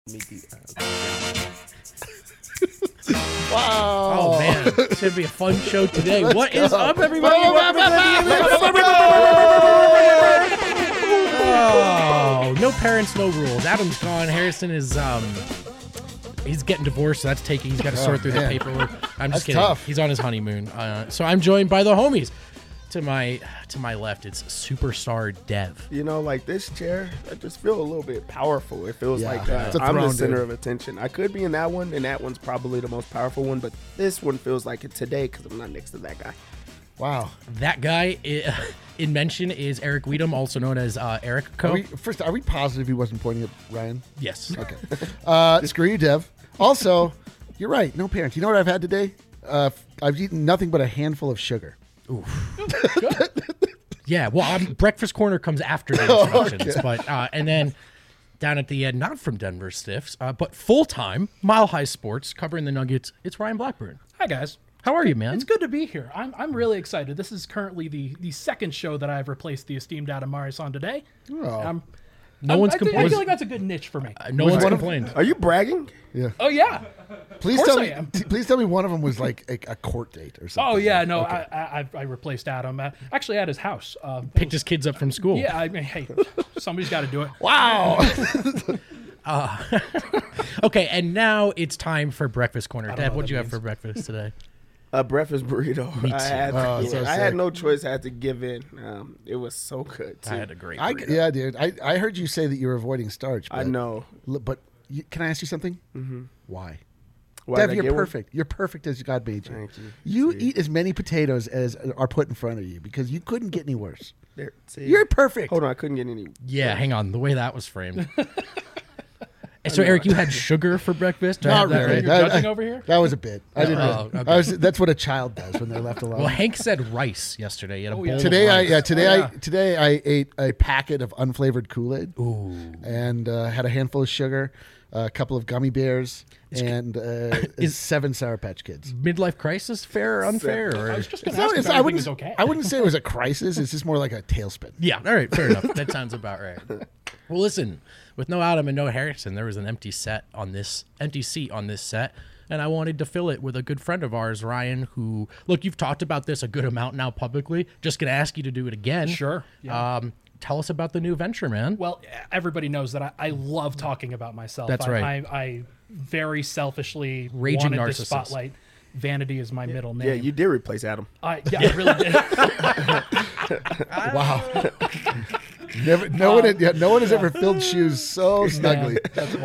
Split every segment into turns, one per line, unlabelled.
Wow.
Oh, man. It's going to be a fun show today. What is up, everybody? Oh, no parents, no rules. Adam's gone. Harrison is, he's getting divorced, so he's got to sort through the paperwork. I'm just kidding.
Tough.
He's on his honeymoon. So I'm joined by the homies. To my left, it's superstar Dev.
You know, like this chair, I just feel a little bit powerful. It feels like
It's a
I'm the
throne,
center
dude.
of attention. I could be in that one, and that one's probably the most powerful one, but this one feels like it today because I'm not next to that guy.
Wow.
That guy in mention is Eric Weedham, also known as Eric Co.
Are we positive he wasn't pointing at Ryan?
Yes.
Okay. Screw you, Dev. Also, you're right. No parents. You know what I've had today? I've eaten nothing but a handful of sugar.
Yeah, well, Breakfast Corner comes after the instructions, but and then down at the end, not from Denver Stiffs, but full-time, Mile High Sports, covering the Nuggets, it's Ryan Blackburn.
Hi, guys.
How are you, man?
It's good to be here. I'm really excited. This is currently the second show that I've replaced the esteemed Adam Marius on today.
Oh.
No one's
I
complained.
feel like that's a good niche for me.
No one's complained.
Are you bragging?
Yeah.
Oh, yeah.
Please
course
tell
I
me.
am.
Please tell me one of them was like a court date or something.
Oh, yeah. No,
Okay.
I replaced Adam. Actually, at his house.
Picked his kids up from school.
Yeah, I mean, hey, somebody's got to do it.
Wow.
Okay, and now it's time for Breakfast Corner.
don't
Dad,
know
what'd
what
you
that
have for breakfast today?
A breakfast burrito.
Me too.
I had
sick.
no choice. I had to give in. It was so good, too.
I had a great burrito.
Yeah, dude. I heard you say that you're avoiding starch.
I know.
But can I ask you something? Mm-hmm. Why?
Why
Dev,
did I
you're
get one?
perfect. You're perfect as God made you.
Thank you.
You
See?
eat as many potatoes as are put in front of you because you couldn't get any worse.
There, see?
You're perfect.
Hold on, I couldn't get any.
Yeah, hang on. The way that was framed. So, Eric, you had sugar for breakfast? Do I
Not
have that
really.
right?
You're judging over here?
That was a bit. I didn't.
Oh, okay.
That's what a child does when they're left alone.
Well, Hank said rice yesterday. He had a bowl
yeah.
of
Today,
rice.
today I ate a packet of unflavored Kool-Aid.
Ooh.
And had a handful of sugar, a couple of gummy bears, and 7 Sour Patch Kids.
Midlife crisis, fair or unfair? Or?
I was just going
It's
to
not-
ask
it's-
if
I
everything
wouldn't.
was okay.
I wouldn't say it was a crisis. It's just more like a tailspin.
Yeah, all right, fair enough. That sounds about right. Well, listen, with no Adam and no Harrison, there was an empty seat on this set, and I wanted to fill it with a good friend of ours, Ryan, who, look, you've talked about this a good amount now publicly. Just going to ask you to do it again.
Sure. Yeah.
Tell us about the new venture, man.
Well, everybody knows that I love talking about myself.
That's right.
I very selfully
Raging
wanted
narcissist.
the spotlight. Vanity is my middle name.
Yeah, you did replace Adam.
I really did.
Wow. No one has ever filled shoes so snugly.
Yeah, that's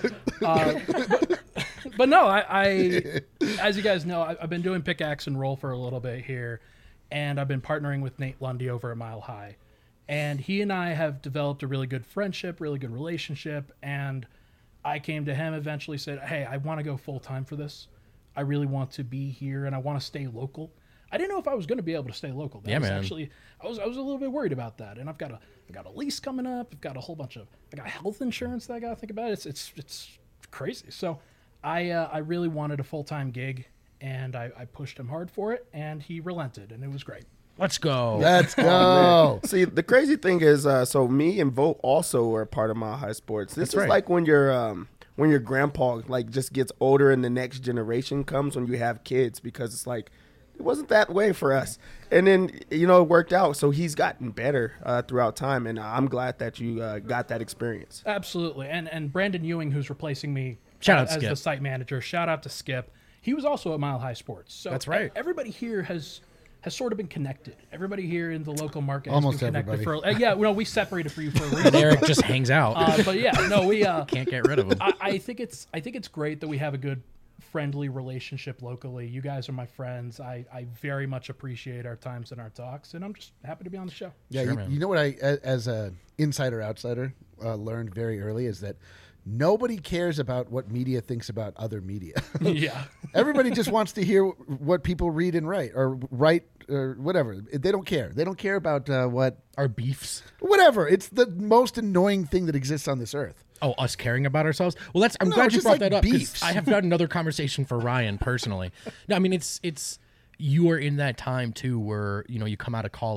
wild. But no, I as you guys know, I've been doing pickaxe and roll for a little bit here, and I've been partnering with Nate Lundy over at Mile High. And he and I have developed a really good friendship, really good relationship, and I came to him eventually, said, hey, I want to go full-time for this. I really want to be here, and I want to stay local. I didn't know if I was going to be able to stay local. That
Yeah,
was
man.
Actually, I was a little bit worried about that, and I've got a lease coming up. I've got a whole bunch of I got health insurance that I got to think about. It's crazy. So I really wanted a full-time gig, and I pushed him hard for it, and he relented, and it was great.
Let's go.
Let's go.
See, the crazy thing is, so me and Vogt also are part of Mile High Sports. This is
right.
like when your grandpa like just gets older and the next generation comes when you have kids, because it's like it wasn't that way for us, and then it worked out. So he's gotten better throughout time, and I'm glad that you got that experience.
Absolutely. And Brandon Ewing, who's replacing me
Shout out
as
Skip.
the site manager, shout out to Skip. He was also at Mile High Sports. So
That's right.
Everybody here has sort of been connected. Everybody here in the local market
Almost
has been connected
everybody.
we separated for you for a reason.
Eric just hangs out.
But yeah, no, we
Can't get rid of him.
I think it's great that we have a good friendly relationship locally. You guys are my friends. I very much appreciate our times and our talks, and I'm just happy to be on the show.
Yeah,
Sure,
you,
man.
you know what I, as a insider outsider, learned very early is that nobody cares about what media thinks about other media.
Yeah.
Everybody just wants to hear what people read and write or whatever. They don't care. They don't care about what
Our beefs.
whatever. It's the most annoying thing that exists on this earth.
Oh, us caring about ourselves? Well, I'm
No,
glad
it's
you
just
brought
like
that up, 'cause
beefs.
I have got another conversation for Ryan personally. No, I mean, it's you are in that time too where, you come out of college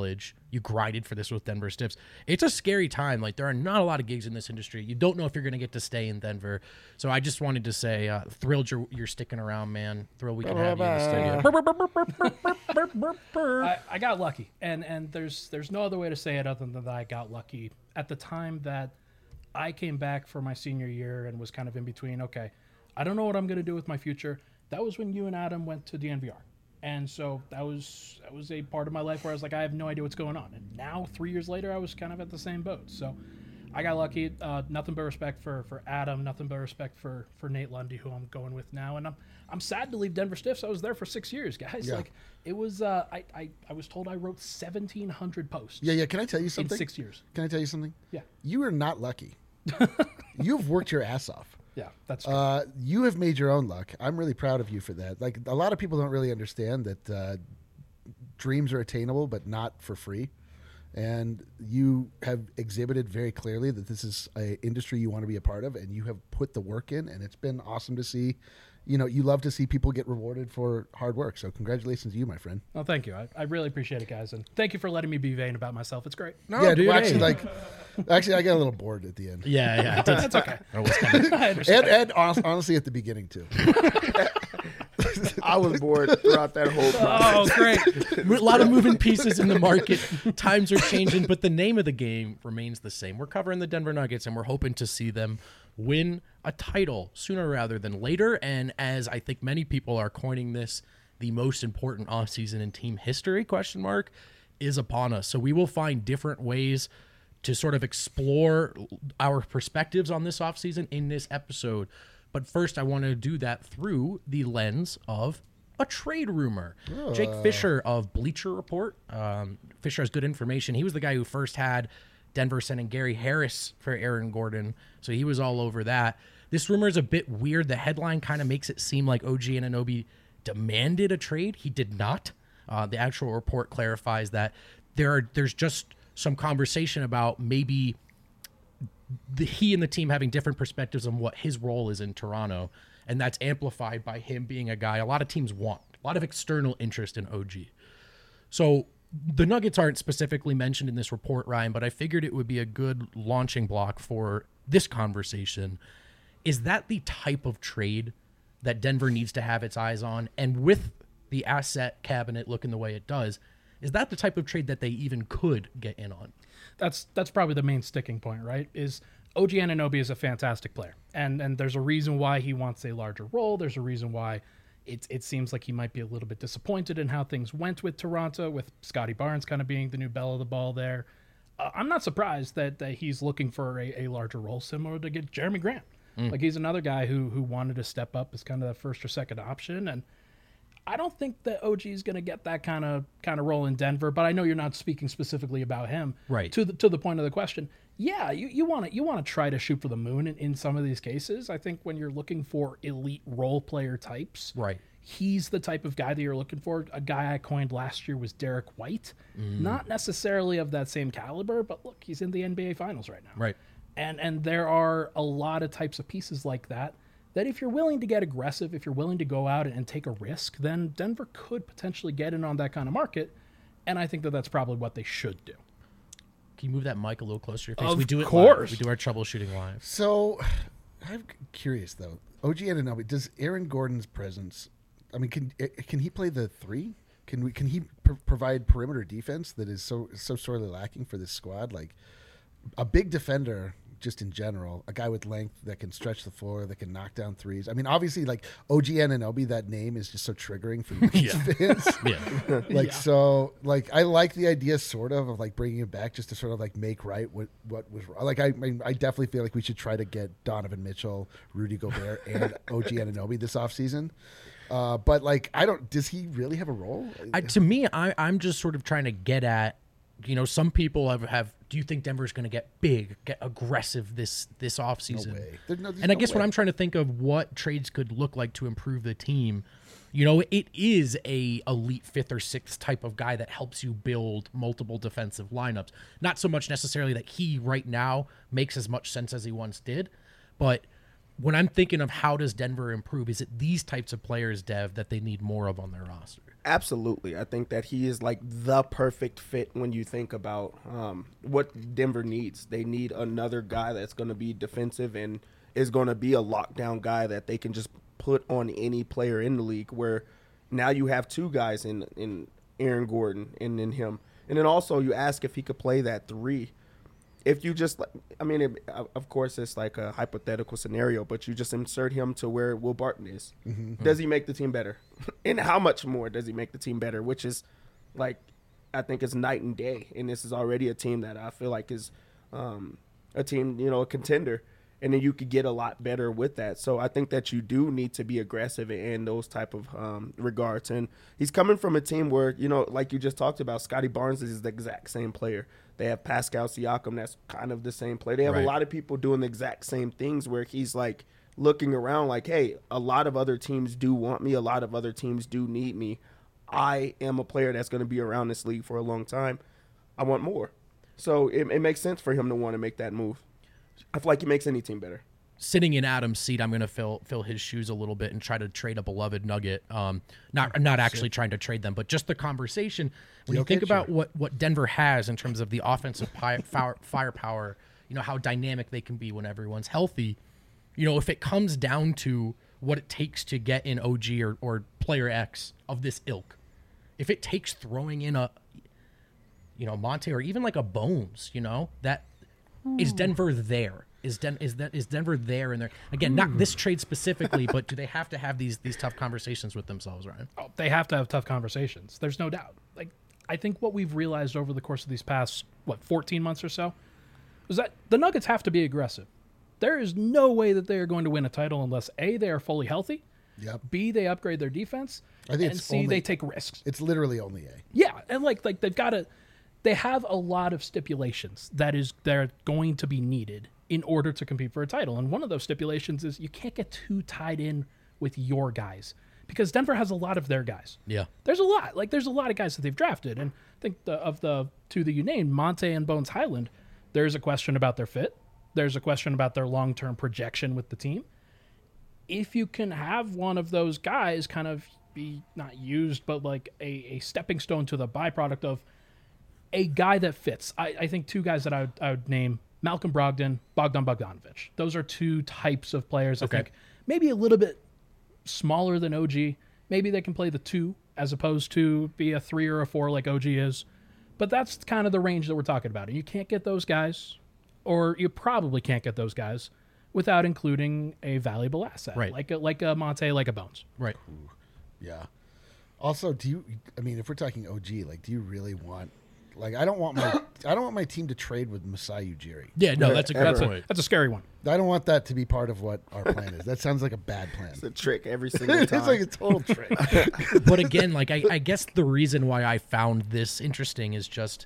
You grinded for this with Denver Stiffs. It's a scary time. Like, there are not a lot of gigs in this industry. You don't know if you're going to get to stay in Denver. So I just wanted to say, thrilled you're sticking around, man. Thrilled we can have you in the studio.
I got lucky, and there's no other way to say it other than that I got lucky. At the time that I came back for my senior year and was kind of in between, okay, I don't know what I'm going to do with my future. That was when you and Adam went to DNVR. And so that was a part of my life where I was like, I have no idea what's going on. And now, 3 years later, I was kind of at the same boat. So I got lucky. Nothing but respect for Adam. Nothing but respect for Nate Lundy, who I'm going with now. And I'm sad to leave Denver Stiffs. I was there for 6 years, guys.
Yeah.
Like, it was. I was told I wrote 1,700 posts.
Yeah. Can I tell you something?
In 6 years.
Can I tell you something?
Yeah.
You are not lucky. You've worked your ass off.
Yeah, that's true.
You have made your own luck. I'm really proud of you for that. Like, a lot of people don't really understand that dreams are attainable, but not for free. And you have exhibited very clearly that this is an industry you want to be a part of, and you have put the work in, and it's been awesome to see. You know, you love to see people get rewarded for hard work. So congratulations to you, my friend.
Well, thank you. I really appreciate it, guys. And thank you for letting me be vain about myself. It's great.
No,
Yeah,
dude,
well,
hey.
actually, I got a little bored at the end.
Yeah.
That's okay.
I was kind of-
I understand.
And honestly, at the beginning, too.
I was bored throughout that whole process.
Oh, great.
A lot of moving pieces in the market. Times are changing, but the name of the game remains the same. We're covering the Denver Nuggets, and we're hoping to see them win a title sooner rather than later. And as I think many people are coining this, the most important offseason in team history, is upon us. So we will find different ways to sort of explore our perspectives on this offseason in this episode. But first, I want to do that through the lens of a trade rumor. Jake Fisher of Bleacher Report. Fisher has good information. He was the guy who first had Denver sending Gary Harris for Aaron Gordon, so he was all over that. This rumor is a bit weird. The headline kind of makes it seem like OG Anunoby demanded a trade. He did not. The actual report clarifies that there's just some conversation about maybe he and the team having different perspectives on what his role is in Toronto, and that's amplified by him being a guy a lot of teams want, a lot of external interest in OG. So the Nuggets aren't specifically mentioned in this report, Ryan, but I figured it would be a good launching block for this conversation. Is that the type of trade that Denver needs to have its eyes on? And with the asset cabinet looking the way it does, is that the type of trade that they even could get in on?
That's probably the main sticking point, right? Is OG Anunoby is a fantastic player, and there's a reason why he wants a larger role. There's a reason why it seems like he might be a little bit disappointed in how things went with Toronto, with Scotty Barnes kind of being the new belle of the ball there. I'm not surprised that he's looking for a larger role, similar to get Jeremy Grant. Like, he's another guy who wanted to step up as kind of the first or second option, and I don't think that OG is going to get that kind of role in Denver, but I know you're not speaking specifically about him.
Right.
To the point of the question, yeah, you want to try to shoot for the moon in some of these cases. I think when you're looking for elite role player types,
Right.
he's the type of guy that you're looking for. A guy I coined last year was Derek White. Not necessarily of that same caliber, but look, he's in the NBA Finals right now.
Right.
And there are a lot of types of pieces like that if you're willing to get aggressive, if you're willing to go out and take a risk, then Denver could potentially get in on that kind of market. And I think that that's probably what they should do.
Can you move that mic a little closer to your face?
Of
We do it
course.
live. We do our troubleshooting live.
So, I'm curious though. OG Anunoby, does Aaron Gordon's presence? I mean, can he play the three? Can he provide perimeter defense that is so sorely lacking for this squad? Like, a big defender, just in general, a guy with length that can stretch the floor, that can knock down threes. I mean, obviously, like, OG Anunoby, that name is just so triggering for Nuggets fans.
Yeah.
Like, so, like, I like the idea sort of like bringing it back just to sort of like make right what was wrong. Like, I definitely feel like we should try to get Donovan Mitchell, Rudy Gobert, and OG Anunoby this offseason. But like, does he really have a role?
To me, I'm just sort of trying to get at, some people have do you think Denver's going to get big, get aggressive this offseason?
No way. There's
And I
no
guess
way.
what I'm trying to think of what trades could look like to improve the team. It is a elite fifth or sixth type of guy that helps you build multiple defensive lineups. Not so much necessarily that he right now makes as much sense as he once did, but when I'm thinking of how does Denver improve, is it these types of players, Dev, that they need more of on their roster?
Absolutely. I think that he is like the perfect fit when you think about what Denver needs. They need another guy that's going to be defensive and is going to be a lockdown guy that they can just put on any player in the league, where now you have two guys in Aaron Gordon and in him. And then also you ask if he could play that 3. If you just, of course, it's like a hypothetical scenario, but you just insert him to where Will Barton is. Mm-hmm. Does he make the team better? And how much more does he make the team better? Which is, like, I think it's night and day. And this is already a team that I feel like is a team, a contender. And then you could get a lot better with that. So I think that you do need to be aggressive in those type of regards. And he's coming from a team where, like you just talked about, Scotty Barnes is the exact same player. They have Pascal Siakam, that's kind of the same player. They have a lot of people doing the exact same things where he's like looking around like, hey, a lot of other teams do want me. A lot of other teams do need me. I am a player that's going to be around this league for a long time. I want more. So it makes sense for him to want to make that move. I feel like he makes any team better.
Sitting in Adam's seat, I'm going to fill his shoes a little bit and try to trade a beloved Nugget. Not actually trying to trade them, but just the conversation. When you think about what Denver has in terms of the offensive firepower, how dynamic they can be when everyone's healthy. If it comes down to what it takes to get in OG or player X of this ilk, if it takes throwing in a, Monte or even like a Bones, that is Denver there. Is Denver there? And there again, not this trade specifically, but do they have to have these tough conversations with themselves, Ryan?
Oh, they have to have tough conversations. There's no doubt. Like, I think what we've realized over the course of these past 14 months or so is that the Nuggets have to be aggressive. There is no way that they are going to win a title unless A, they are fully healthy, B, they upgrade their defense, and C, they take risks.
It's literally only A.
Yeah, and like they've got to. They have a lot of stipulations they're going to be needed in order to compete for a title. And one of those stipulations is you can't get too tied in with your guys, because Denver has a lot of their guys.
Yeah.
There's a lot. Like, there's a lot of guys that they've drafted. And I think of the two that you named, Monte and Bones Highland, there's a question about their fit. There's a question about their long-term projection with the team. If you can have one of those guys kind of be not used, but like a stepping stone to the byproduct of a guy that fits. I think two guys that I would name, Malcolm Brogdon, Bogdan Bogdanovic. Those are two types of players I think maybe a little bit smaller than OG. Maybe they can play the 2 as opposed to be a 3 or a 4 like OG is. But that's kind of the range that we're talking about. And you can't get those guys, or you probably can't get those guys, without including a valuable asset.
Right.
Like a Monte, like a Bones.
Right.
Yeah. Also, if we're talking OG, like, do you really want... Like, I don't want my team to trade with Masai Ujiri.
Yeah, no, that's a good point.
That's a scary one.
I don't want that to be part of what our plan is. That sounds like a bad plan.
It's a trick every single time.
It's like a total trick.
But again, like I guess the reason why I found this interesting is just,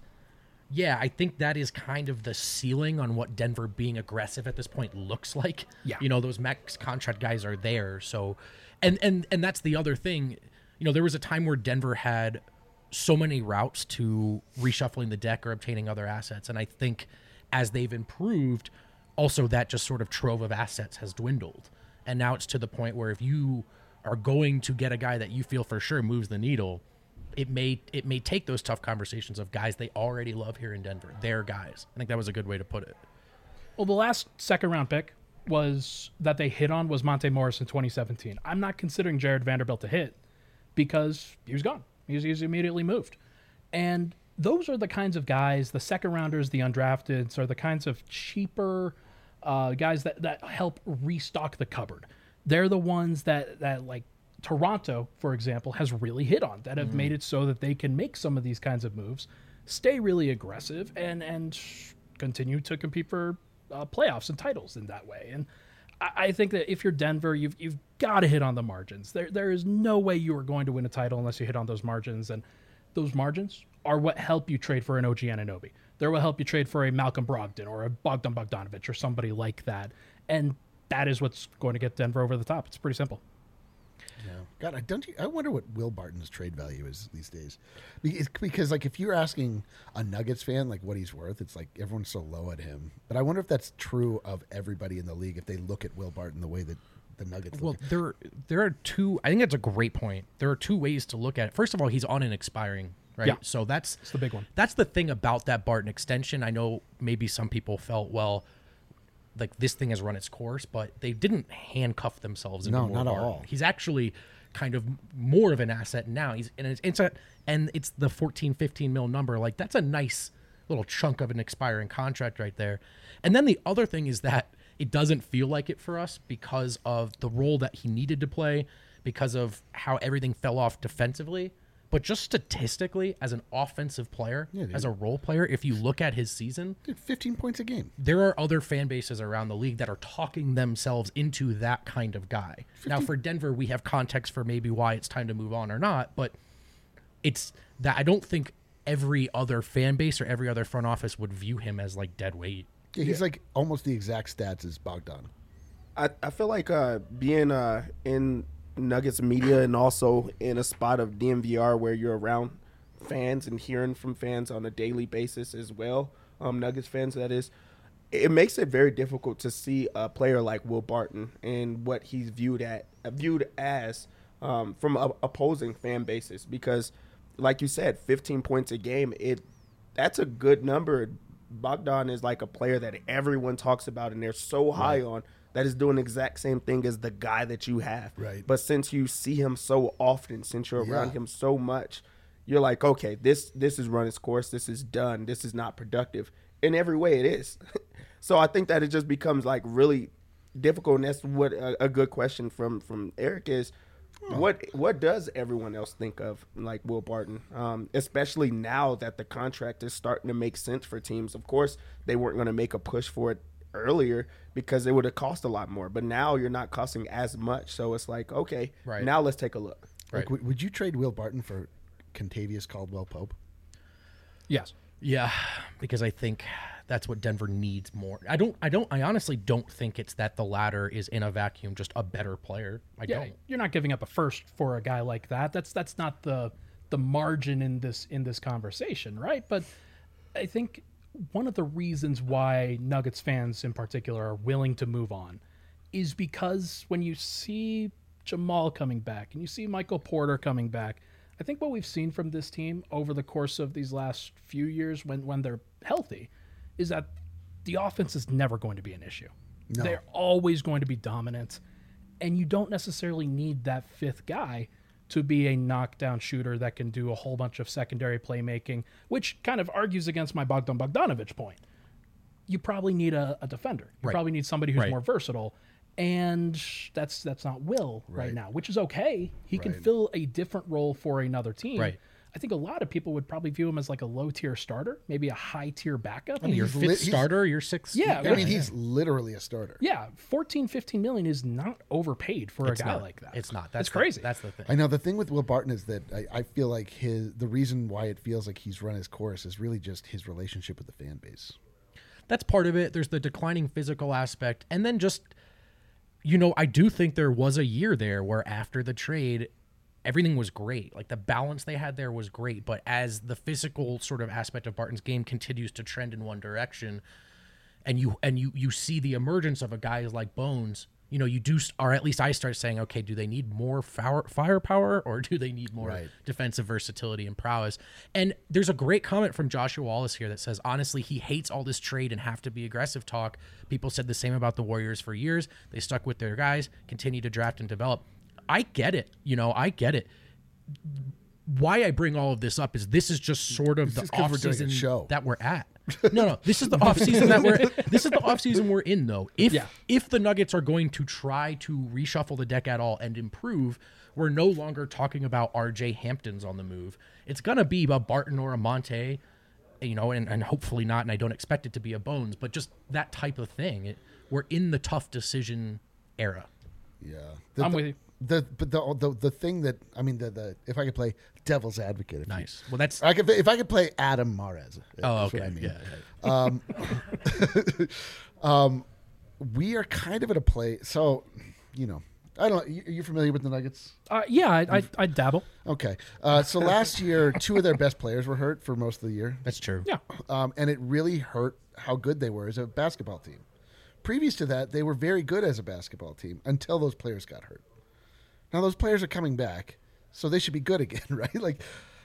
I think that is kind of the ceiling on what Denver being aggressive at this point looks like.
Yeah.
Those max contract guys are there. So, and that's the other thing. There was a time where Denver had so many routes to reshuffling the deck or obtaining other assets. And I think as they've improved, also that just sort of trove of assets has dwindled. And now it's to the point where if you are going to get a guy that you feel for sure moves the needle, it may take those tough conversations of guys they already love here in Denver. Their guys. I think that was a good way to put it.
Well, the last second round pick was that they hit on was Monte Morris in 2017. I'm not considering Jared Vanderbilt a hit because he was gone. He's immediately moved. And those are the kinds of guys, the second rounders, the undrafteds, are the kinds of cheaper guys that help restock the cupboard. They're the ones that like Toronto, for example, has really hit on, that have made it so that they can make some of these kinds of moves, stay really aggressive, and continue to compete for playoffs and titles in that way. And I think that if you're Denver, you've got to hit on the margins. There is no way you are going to win a title unless you hit on those margins, and those margins are what help you trade for an OG Anunoby. They're what help you trade for a Malcolm Brogdon or a Bogdan Bogdanovic or somebody like that, and that is what's going to get Denver over the top. It's pretty simple.
Yeah. God, I wonder what Will Barton's trade value is these days, because like if you're asking a Nuggets fan like what he's worth, it's like everyone's so low at him. But I wonder if that's true of everybody in the league if they look at Will Barton the way that the Nuggets.
Well,
look
there are two. I think that's a great point. There are two ways to look at it. First of all, he's on an expiring, right?
Yeah.
So that's
the big one.
That's the thing about that Barton extension. I know maybe some people felt, well, like this thing has run its course, but they didn't handcuff themselves into
No,
more
not at
Barton.
all.
He's actually kind of more of an asset now. It's the 14-15 mil number. Like that's a nice little chunk of an expiring contract right there. And then the other thing is that it doesn't feel like it for us because of the role that he needed to play, because of how everything fell off defensively. But just statistically, as an offensive player,
Yeah, dude.
as a role player, if you look at his season,
Dude, 15 points a game.
there are other fan bases around the league that are talking themselves into that kind of guy. Now, for Denver, we have context for maybe why it's time to move on or not, but it's that I don't think every other fan base or every other front office would view him as like dead weight.
Yeah, he's like almost the exact stats as Bogdan.
I feel like being in Nuggets media and also in a spot of DMVR where you're around fans and hearing from fans on a daily basis as well, Nuggets fans that is, it makes it very difficult to see a player like Will Barton and what he's viewed as from opposing fan bases, because like you said, 15 points a game, that's a good number. Bogdan is like a player that everyone talks about and they're so high on, that is doing the exact same thing as the guy that you have.
Right.
But since you see him so often, since you're around
Yeah.
him so much, you're like, okay, this has run its course. This is done. This is not productive. In every way it is. So I think that it just becomes like really difficult. And that's what a good question from Eric is. What does everyone else think of like Will Barton, especially now that the contract is starting to make sense for teams? Of course, they weren't going to make a push for it earlier because it would have cost a lot more, but now you're not costing as much. So it's like, okay,
Right.
now let's take a look.
Like, would you trade Will Barton for Contavious Caldwell Pope?
Yes.
Yeah, because I think that's what Denver needs more. I honestly don't think it's that the latter is in a vacuum just a better player. I
Yeah,
don't.
you're not giving up a first for a guy like that. That's not the margin in this conversation, right? But I think one of the reasons why Nuggets fans in particular are willing to move on is because when you see Jamal coming back and you see Michael Porter coming back, I think what we've seen from this team over the course of these last few years when they're healthy is that the offense is never going to be an issue.
No.
They're always going to be dominant, and you don't necessarily need that fifth guy to be a knockdown shooter that can do a whole bunch of secondary playmaking, which kind of argues against my Bogdan Bogdanovic point. You probably need a defender. You
Right.
probably need somebody who's
Right.
more versatile, and that's not Will right now, which is okay. He can fill a different role for another team.
Right.
I think a lot of people would probably view him as like a low-tier starter, maybe a high-tier backup.
Your
He's
fifth starter, your sixth.
Yeah,
I mean, he's literally a starter.
Yeah, 14-15 million is not overpaid for
It's
a guy
not.
like that.
It's not.
That's
That's
crazy.
That's the thing.
I know the thing with Will Barton is that I feel like the reason why it feels like he's run his course is really just his relationship with the fan base.
That's part of it. There's the declining physical aspect. And then just, I do think there was a year there where after the trade, everything was great. Like the balance they had there was great. But as the physical sort of aspect of Barton's game continues to trend in one direction, and you see the emergence of a guy like Bones, you do, or at least I start saying, okay, do they need more firepower or do they need more defensive versatility and prowess? And there's a great comment from Joshua Wallace here that says, honestly, he hates all this trade and have to be aggressive talk. People said the same about the Warriors for years. They stuck with their guys, continue to draft and develop. I get it. I get it. Why I bring all of this up is this is just sort of the
is 'cause we're doing a
offseason
show.
that we're at. No, this is the offseason this is the offseason we're in though. If the Nuggets are going to try to reshuffle the deck at all and improve, we're no longer talking about RJ Hampton's on the move. It's gonna be a Barton or a Monte, and hopefully not, and I don't expect it to be a Bones, but just that type of thing. We're in the tough decision era.
Yeah,
I'm with you.
The thing that if I could play devil's advocate,
Nice. Well, that's
if I could play Adam Mares.
oh,
that's what
okay.
I mean.
Yeah.
We are kind of at a place. So, I don't. Are you familiar with the Nuggets?
Yeah, I dabble.
Okay. So last year, 2 of their best players were hurt for most of the year.
That's true.
Yeah.
And it really hurt how good they were as a basketball team. Previous to that, they were very good as a basketball team until those players got hurt. Now those players are coming back, so they should be good again, right? Like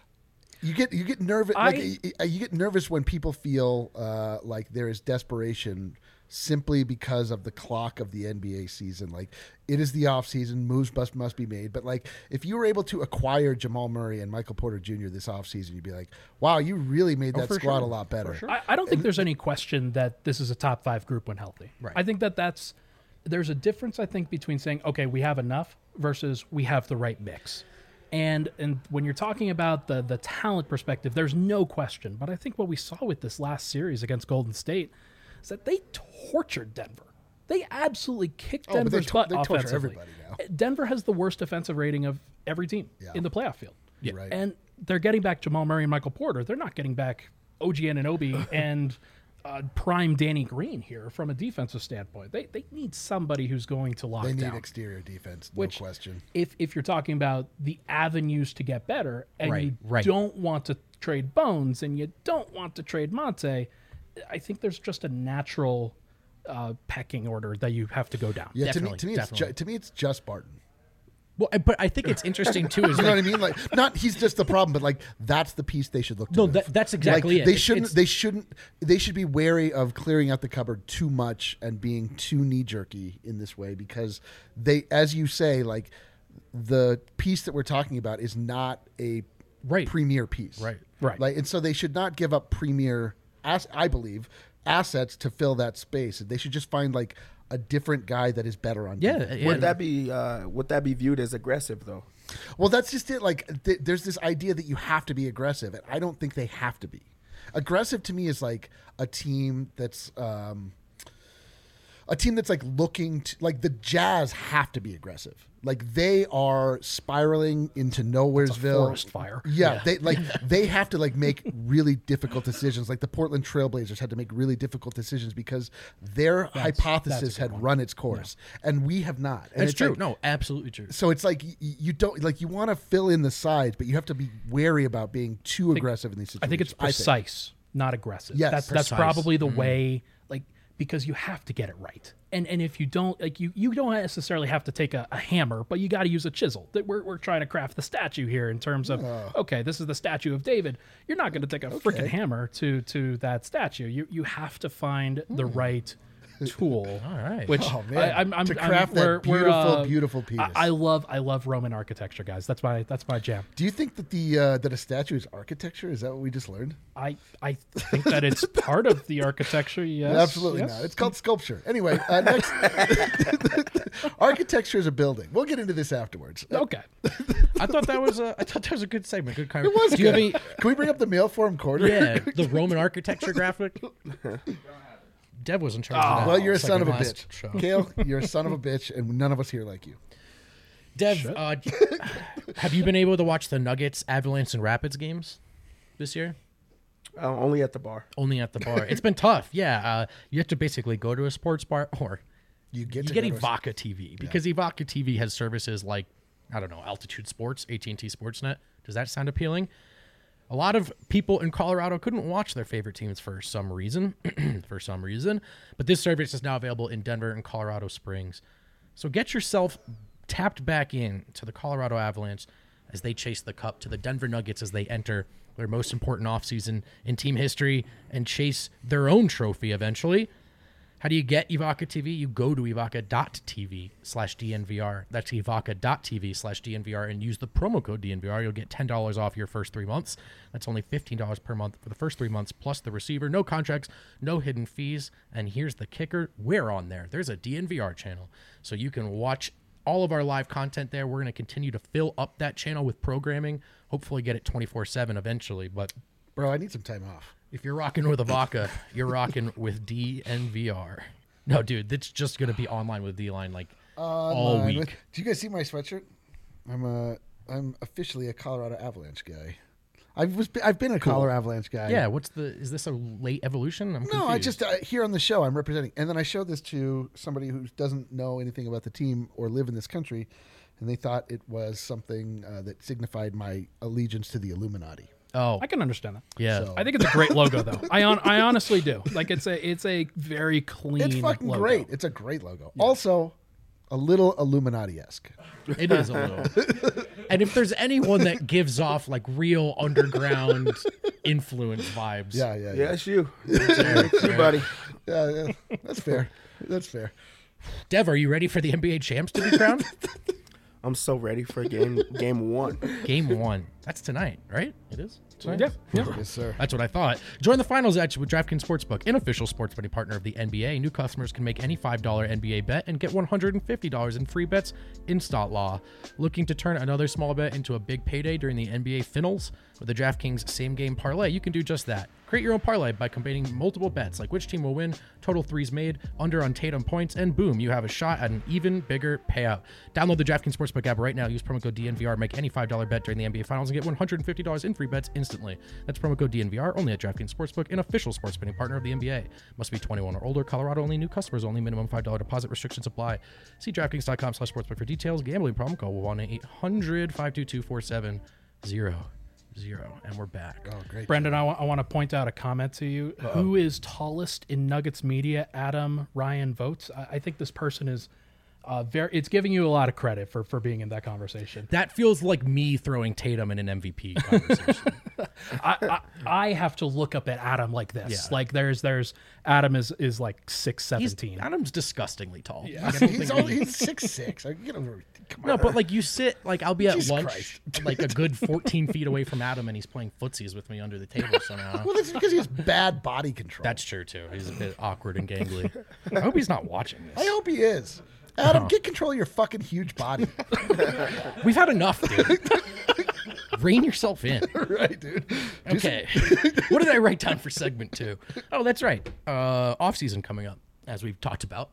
you get nervous. You get nervous when people feel like there is desperation simply because of the clock of the NBA season. Like it is the off season, moves must be made. But like if you were able to acquire Jamal Murray and Michael Porter Jr. this off season, you'd be like, wow, you really made that squad a lot better.
I don't think there's any question that this is a top 5 group when healthy.
Right.
I think there's a difference, I think, between saying, okay, we have enough versus we have the right mix. And when you're talking about the talent perspective, there's no question. But I think what we saw with this last series against Golden State is that they tortured Denver. They absolutely kicked Denver's butt
they torture
offensively.
everybody now.
Denver has the worst defensive rating of every team in the playoff field.
Yeah.
Right.
And they're getting back Jamal Murray and Michael Porter. They're not getting back OG Anunoby and prime Danny Green here from a defensive standpoint. They need somebody who's going to lock
They
down.
need exterior defense, no
Which,
question.
If you're talking about the avenues to get better and you
Right.
don't want to trade Bones and you don't want to trade Monte, I think there's just a natural pecking order that you have to go down.
Yeah,
Definitely,
to me, it's just Barton.
Well, but I think it's interesting too. Is
You know
like,
what I mean? Like, not he's just the problem, but like that's the piece they should look to.
No,
move.
that's exactly
like,
it.
They should be wary of clearing out the cupboard too much and being too knee jerky in this way because they, as you say, like the piece that we're talking about is not a premier piece,
Right.
Like, and so they should not give up premier, I believe, assets to fill that space. They should just find like a different guy that is better on defense.
Would that be viewed as aggressive though?
Well, that's just it. Like, there's this idea that you have to be aggressive, and I don't think they have to be. Aggressive to me is like a team that's like looking to, like the Jazz have to be aggressive. Like they are spiraling into Nowheresville.
Forest fire.
Yeah, they have to like make really difficult decisions. Like the Portland Trailblazers had to make really difficult decisions because their hypothesis had run its course, and we have not. And
that's
it's
true.
like,
No, absolutely true.
so it's like you don't like you want to fill in the sides, but you have to be wary about being too aggressive in these situations.
I think it's precise, not aggressive.
Yes,
that's
precise.
probably the way, like, because you have to get it right. And if you don't, like, you don't necessarily have to take a hammer, but you got to use a chisel. That we're trying to craft the statue here in terms of, okay, this is the statue of David. You're not going to take a freaking hammer to that statue. You have to find the right tool.
All right.
Which
Oh, man.
I'm
To craft that beautiful piece.
I love Roman architecture, guys. That's my jam.
Do you think that that a statue is architecture? Is that what we just learned?
I think that it's part of the architecture. Yes,
Absolutely
yes.
not. It's called sculpture. Anyway, next, architecture is a building. We'll get into this afterwards.
Okay.
I thought that was a good segment. Good comment.
It was.
Do you have
good.
any?
Can we bring up the mail form quarter?
Yeah, the Roman architecture graphic. Dev was in charge of that.
Well, you're a son
segment
of a
last
bitch.
show.
Kale, you're a son of a bitch, and none of us here like you.
Dev, have you been able to watch the Nuggets, Avalanche, and Rapids games this year?
Only at the bar.
Only at the bar. It's been tough. Yeah, you have to basically go to a sports bar or
You get
you
to
get
go to a-
Evoca TV because Evoca TV has services like, I don't know, Altitude Sports, AT&T Sportsnet. Does that sound appealing? A lot of people in Colorado couldn't watch their favorite teams for some reason, but this service is now available in Denver and Colorado Springs. So get yourself tapped back in to the Colorado Avalanche as they chase the cup, to the Denver Nuggets as they enter their most important offseason in team history and chase their own trophy eventually. How do you get Evoca TV? You go to evoca.tv/DNVR. That's evoca.tv/DNVR and use the promo code DNVR. You'll get $10 off your first 3 months. That's only $15 per month for the first 3 months plus the receiver. No contracts, no hidden fees. And here's the kicker. We're on there. There's a DNVR channel. So you can watch all of our live content there. We're going to continue to fill up that channel with programming. Hopefully get it 24/7 eventually. But
Bro, I need some time off.
if you're rocking with Evoca, you're rocking with DNVR. No, dude, it's just going to be online with D-Line like all week.
Do you guys see my sweatshirt? I'm officially a Colorado Avalanche guy. I've been a Collar Avalanche guy.
Yeah, is this a late evolution? I'm
No, I
confused.
just here on the show I'm representing, and then I showed this to somebody who doesn't know anything about the team or live in this country, and they thought it was something that signified my allegiance to the Illuminati.
Oh,
I can understand that.
yeah.
So-
I think it's a great logo, though. I honestly do. Like it's a very clean.
It's fucking
logo.
great. It's a great logo. Also, a little Illuminati-esque.
It is a little. And if there's anyone that gives off like real underground influence vibes,
Yeah,
Yeah.
it's you. It's you, buddy.
Yeah, that's fair. That's fair.
Dev, are you ready for the NBA champs to be crowned?
I'm so ready for game one.
Game 1. That's tonight, right? It is? Tonight?
Yeah.
Yes, sir.
That's what I thought. Join the finals action with DraftKings Sportsbook, an official sports betting partner of the NBA. New customers can make any $5 NBA bet and get $150 in free bets in Stot Law. Looking to turn another small bet into a big payday during the NBA Finals? With the DraftKings Same Game Parlay, you can do just that. Create your own parlay by combining multiple bets, like which team will win, total threes made, under on Tatum points, and boom, you have a shot at an even bigger payout. Download the DraftKings Sportsbook app right now. Use promo code DNVR. Make any $5 bet during the NBA Finals and get $150 in free bets instantly. That's promo code DNVR only at DraftKings Sportsbook, an official sports betting partner of the NBA. Must be 21 or older. Colorado only. New customers only. Minimum $5 deposit. Restrictions apply. See DraftKings.com/sportsbook for details. Gambling problem? Call 1-800-522-4700. And we're back.
Oh, great.
Brendan, I want to point out a comment to you. Who is tallest in Nuggets media? Adam Ryan votes. I think this person is it's giving you a lot of credit for being in that conversation.
That feels like me throwing Tatum in an MVP conversation.
I have to look up at Adam like this.
Yeah.
Like there's Adam is like 6'17".
Adam's disgustingly tall.
Yeah.
Like, I don't
He's
think
only 6'6". Get over. Come on.
No, but like you sit, like I'll be at
Jesus
lunch,
Christ.
like a good 14 feet away from Adam, and he's playing footsies with me under the table somehow.
Well, that's because he has bad body control.
That's true too. He's a bit awkward and gangly. I hope he's not watching
I
this.
hope he is. Adam, get control of your fucking huge body.
We've had enough, dude. Rein yourself in.
Right, dude.
Okay. What did I write down for segment 2? Oh, that's right. Off season coming up, as we've talked about.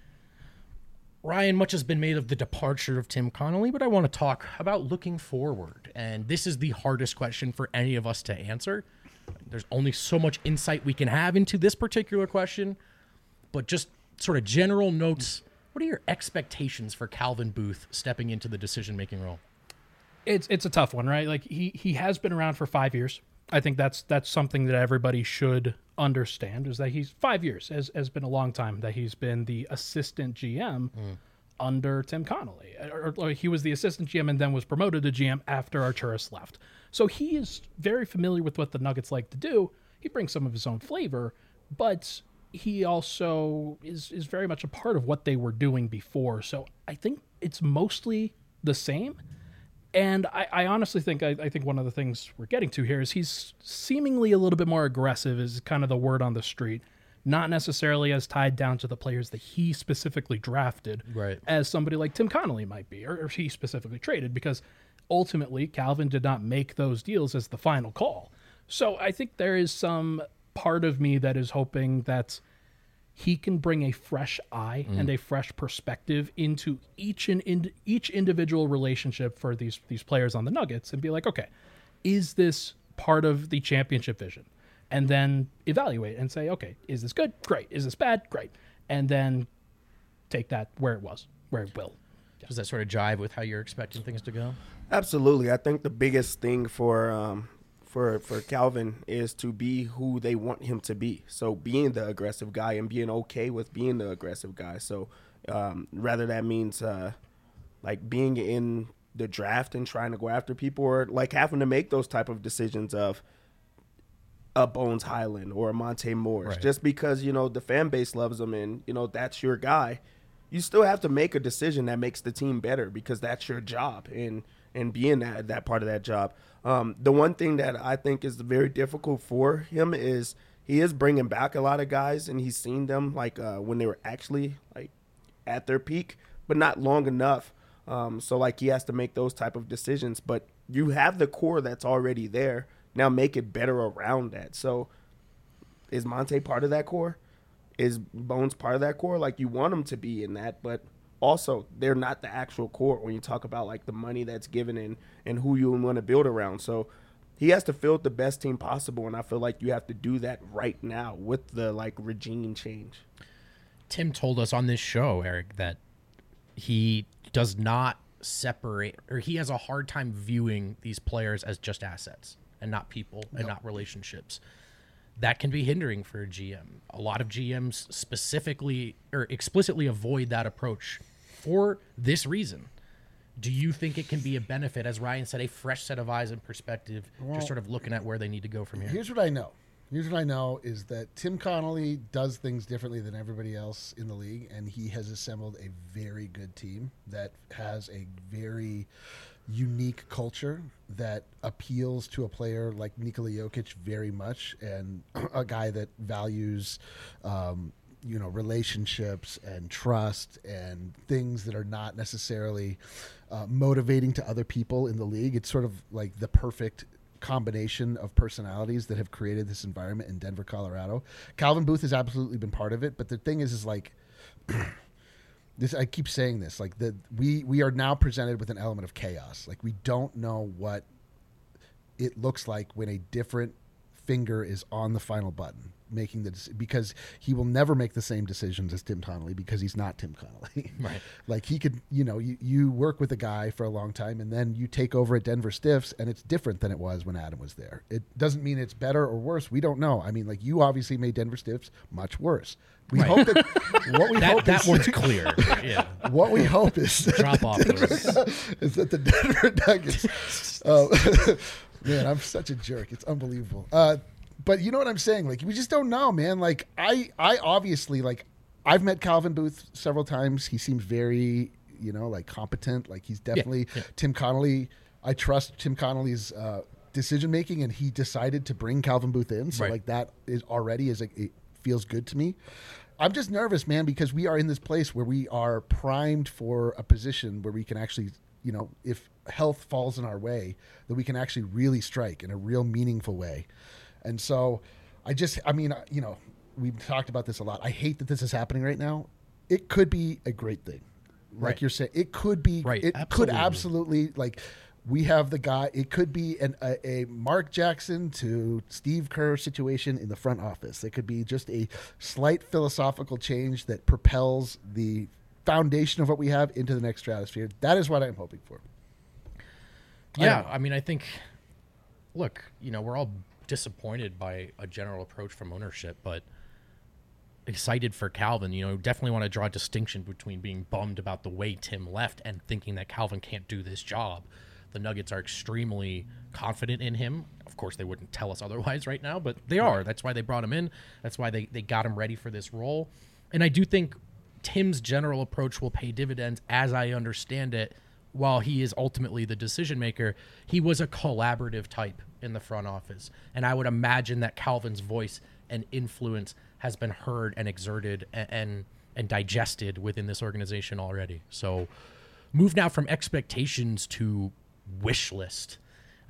Ryan, much has been made of the departure of Tim Connolly, but I want to talk about looking forward. And this is the hardest question for any of us to answer. There's only so much insight we can have into this particular question, but just sort of general notes. What are your expectations for Calvin Booth stepping into the decision-making role?
It's a tough one, right? Like he has been around for 5 years. I think that's something that everybody should understand, is that he's 5 years has been a long time that he's been the assistant GM under Tim Connolly. Or he was the assistant GM and then was promoted to GM after Arturas left. So he is very familiar with what the Nuggets like to do. He brings some of his own flavor, but he also is very much a part of what they were doing before. So I think it's mostly the same. And I honestly think, I think one of the things we're getting to here is he's seemingly a little bit more aggressive, is kind of the word on the street, not necessarily as tied down to the players that he specifically drafted,
Right.
as somebody like Tim Connolly might be, or he specifically traded, because ultimately Calvin did not make those deals as the final call. So I think there is some part of me that is hoping that he can bring a fresh eye and a fresh perspective into each individual relationship for these players on the Nuggets, and be like, okay, is this part of the championship vision? And then evaluate and say, okay, is this good? Great. Is this bad? Great. And then take that where it will.
Does that sort of jive with how you're expecting things to go?
Absolutely. I think the biggest thing for Calvin is to be who they want him to be. So being the aggressive guy and being okay with being the aggressive guy. So rather that means like being in the draft and trying to go after people, or like having to make those type of decisions of a Bones Highland or a Monte Morris.
Right.
Just because, the fan base loves him and, that's your guy, you still have to make a decision that makes the team better, because that's your job and being that part of that job. The one thing that I think is very difficult for him is he is bringing back a lot of guys, and he's seen them like when they were actually like at their peak, but not long enough. So like he has to make those type of decisions, but you have the core that's already there. Now make it better around that. So is Monte part of that core? Is Bones part of that core? Like, you want them to be in that, but also they're not the actual core when you talk about like the money that's given and who you want to build around. So he has to field the best team possible, and I feel like you have to do that right now with the like regime change.
Tim told us on this show, Eric, that he does not separate, or he has a hard time viewing these players as just assets and not people and not relationships. That can be hindering for a GM. A lot of GMs specifically or explicitly avoid that approach for this reason. Do you think it can be a benefit, as Ryan said, a fresh set of eyes and perspective, just sort of looking at where they need to go from here?
Here's what I know. Here's what I know is that Tim Connolly does things differently than everybody else in the league, and he has assembled a very good team that has a very unique culture that appeals to a player like Nikola Jokic very much, and a guy that values relationships and trust and things that are not necessarily motivating to other people in the league. It's sort of like the perfect combination of personalities that have created this environment in Denver, Colorado. Calvin Booth has absolutely been part of it, but the thing is like this. I keep saying this, like we are now presented with an element of chaos. Like we don't know what it looks like when a different finger is on the final button, making because he will never make the same decisions as Tim Connolly because he's not Tim Connolly.
Right.
Like he could, you work with a guy for a long time and then you take over at Denver Stiffs and it's different than it was when Adam was there. It doesn't mean it's better or worse. We don't know. I mean, like you obviously made Denver Stiffs much worse. We hope that what we hope
that
is,
one's clear. Yeah.
What we hope is
Drop off
is that the Denver Nuggets. Man, I'm such a jerk. It's unbelievable. But you know what I'm saying? Like, we just don't know, man. Like, I obviously, like, I've met Calvin Booth several times. He seems very, like, competent. Like, he's definitely Tim Connolly. I trust Tim Connolly's decision making, and he decided to bring Calvin Booth in. So, like, that is already it feels good to me. I'm just nervous, man, because we are in this place where we are primed for a position where we can actually, if health falls in our way, that we can actually really strike in a real meaningful way. And so we've talked about this a lot. I hate that this is happening right now. It could be a great thing. Like you're saying, it could be, it could absolutely, like, we have the guy, it could be a Mark Jackson to Steve Kerr situation in the front office. It could be just a slight philosophical change that propels the foundation of what we have into the next stratosphere. That is what I'm hoping for.
Yeah, I mean, I think, look, we're all disappointed by a general approach from ownership, but excited for Calvin. Definitely want to draw a distinction between being bummed about the way Tim left and thinking that Calvin can't do this job. The Nuggets are extremely confident in him. Of course, they wouldn't tell us otherwise right now, but they are. That's why they brought him in. That's why they got him ready for this role. And I do think Tim's general approach will pay dividends, as I understand it. While he is ultimately the decision maker, he was a collaborative type in the front office. And I would imagine that Calvin's voice and influence has been heard and exerted and digested within this organization already. So move now from expectations to wish list.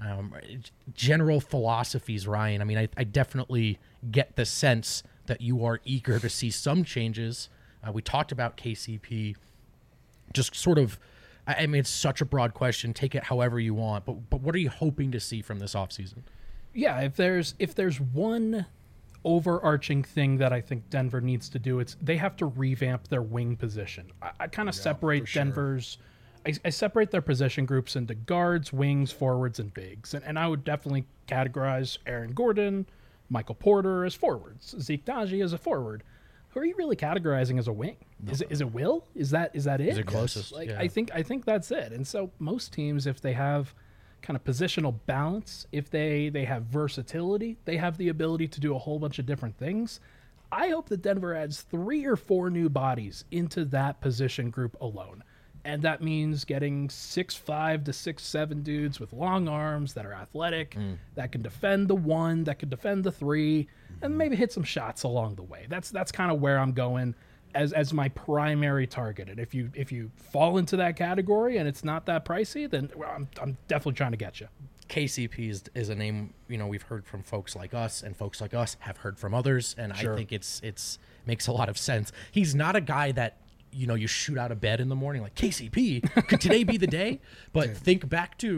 General philosophies, Ryan. I mean, I definitely get the sense that you are eager to see some changes. We talked about KCP. Just sort of, I mean, it's such a broad question. Take it however you want. But what are you hoping to see from this offseason?
Yeah, if there's one overarching thing that I think Denver needs to do, it's they have to revamp their wing position. I kind of separate Denver's. I separate their position groups into guards, wings, forwards, and bigs. And I would definitely categorize Aaron Gordon, Michael Porter as forwards, Zeke Naji as a forward. Who are you really categorizing as a wing? No. Is it Will? Is that it?
Is it closest?
Like
yeah.
I think that's it. And so most teams, if they have kind of positional balance, if they have versatility, they have the ability to do a whole bunch of different things. I hope that Denver adds 3 or 4 new bodies into that position group alone. And that means getting 6'5" to 6'7" dudes with long arms that are athletic, that can defend the 1, that can defend the 3, and maybe hit some shots along the way. That's kind of where I'm going as my primary target. And if you fall into that category and it's not that pricey, then I'm definitely trying to get you.
KCP is a name we've heard from folks like us, and folks like us have heard from others, and sure. I think it's makes a lot of sense. He's not a guy that you shoot out of bed in the morning like, KCP, could today be the day? But think back to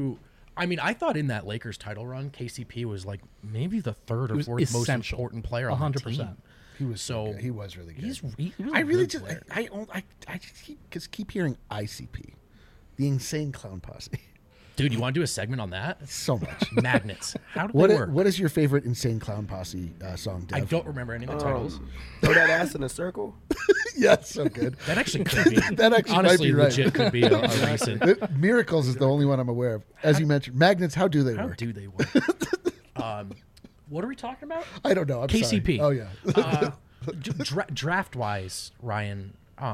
I mean, I thought in that Lakers title run, KCP was like maybe the third or
was
fourth most
essential.
important player on the
100%.
team.
He was
So
he was really good.
He was
I
a
really
good
just
player.
I just keep hearing ICP, the Insane Clown Posse,
Dude, you want to do a segment on that?
so much.
Magnets. How do they work?
What is your favorite Insane Clown Posse song, Dev?
I don't remember any of the titles.
Throw that ass in a circle.
Yeah, it's so good.
That actually could be.
That actually
honestly
might be right.
legit could be a recent.
Miracles is the only one I'm aware of. As you mentioned, magnets. How do they
How
work?
do they work? What are we talking about?
I don't know. I'm
KCP.
Sorry. Oh yeah.
Draft wise, Ryan.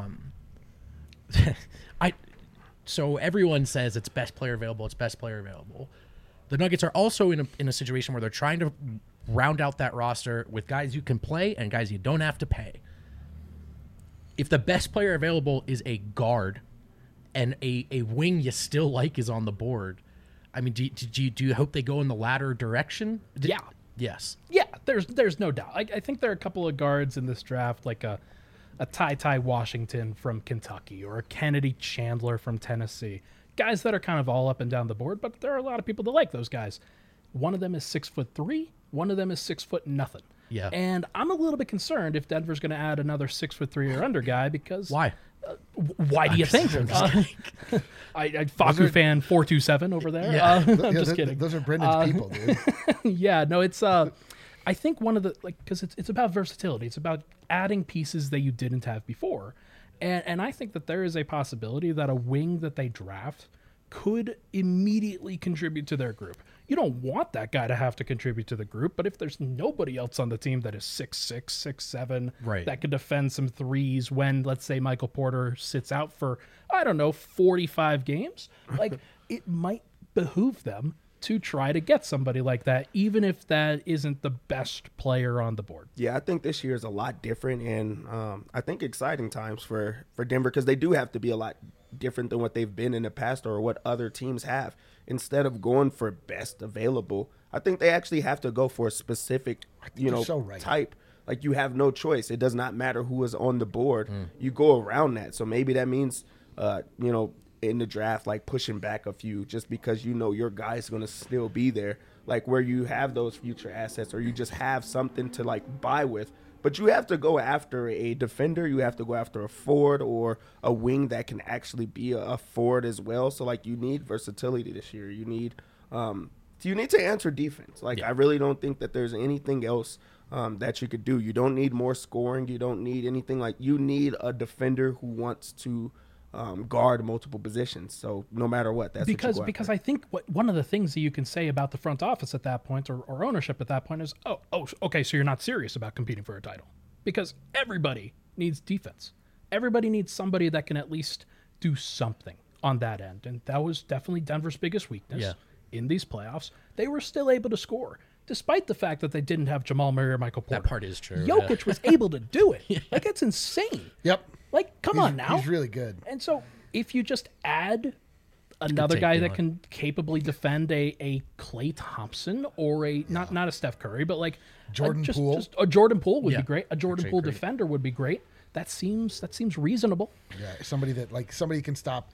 So everyone says it's best player available. It's best player available. The Nuggets are also in a situation where they're trying to round out that roster with guys you can play and guys you don't have to pay. If the best player available is a guard and a wing you still like is on the board, I mean, do you hope they go in the latter direction?
Yeah.
Yes.
Yeah, there's no doubt. I think there are a couple of guards in this draft, like a Ty Washington from Kentucky or a Kennedy Chandler from Tennessee. Guys that are kind of all up and down the board, but there are a lot of people that like those guys. One of them is 6'3", one of them is 6'0".
Yeah.
And I'm a little bit concerned if Denver's going to add another 6'3" or under guy because
Why?
Why do you think? Faku fan 427 over there.
Yeah.
I'm just kidding.
Those are Brendan's people, dude.
Yeah, no, it's I think one of the because it's about versatility. It's about adding pieces that you didn't have before, and I think that there is a possibility that a wing that they draft could immediately contribute to their group. You don't want that guy to have to contribute to the group, but if there's nobody else on the team that is 6'6", 6'7",
Right.
that could defend some threes when, let's say, Michael Porter sits out for, I don't know, 45 games, like it might behoove them to try to get somebody like that, even if that isn't the best player on the board.
Yeah, I think this year is a lot different, and I think exciting times for Denver because they do have to be a lot different than what they've been in the past or what other teams have. Instead of going for best available, I think they actually have to go for a specific,
so right.
type. Like you have no choice. It does not matter who is on the board. You go around that. So maybe that means, in the draft, like pushing back a few just because your guy's going to still be there. Like where you have those future assets or you just have something to like buy with. But you have to go after a defender. You have to go after a forward or a wing that can actually be a forward as well. So, like, you need versatility this year. You need to answer defense. Like, I really don't think that there's anything else that you could do. You don't need more scoring. You don't need anything. Like, you need a defender who wants to guard multiple positions. So no matter what, that's
because
what you go
because
after.
I think one of the things that you can say about the front office at that point or ownership at that point is, okay, so you're not serious about competing for a title because everybody needs defense. Everybody needs somebody that can at least do something on that end, and that was definitely Denver's biggest weakness in these playoffs. They were still able to score. Despite the fact that they didn't have Jamal Murray or Michael Porter.
That part is true.
Jokic was able to do it. Like, that's insane.
Yep.
Like, come on now.
He's really good.
And so if you just add another
take
guy
the
that can capably defend a Klay Thompson or not a Steph Curry, but like
Jordan Poole.
just a Jordan Poole would
Yeah.
be great. A Jordan
Actually
Poole
agree.
defender would be great. That seems reasonable.
Yeah, somebody can stop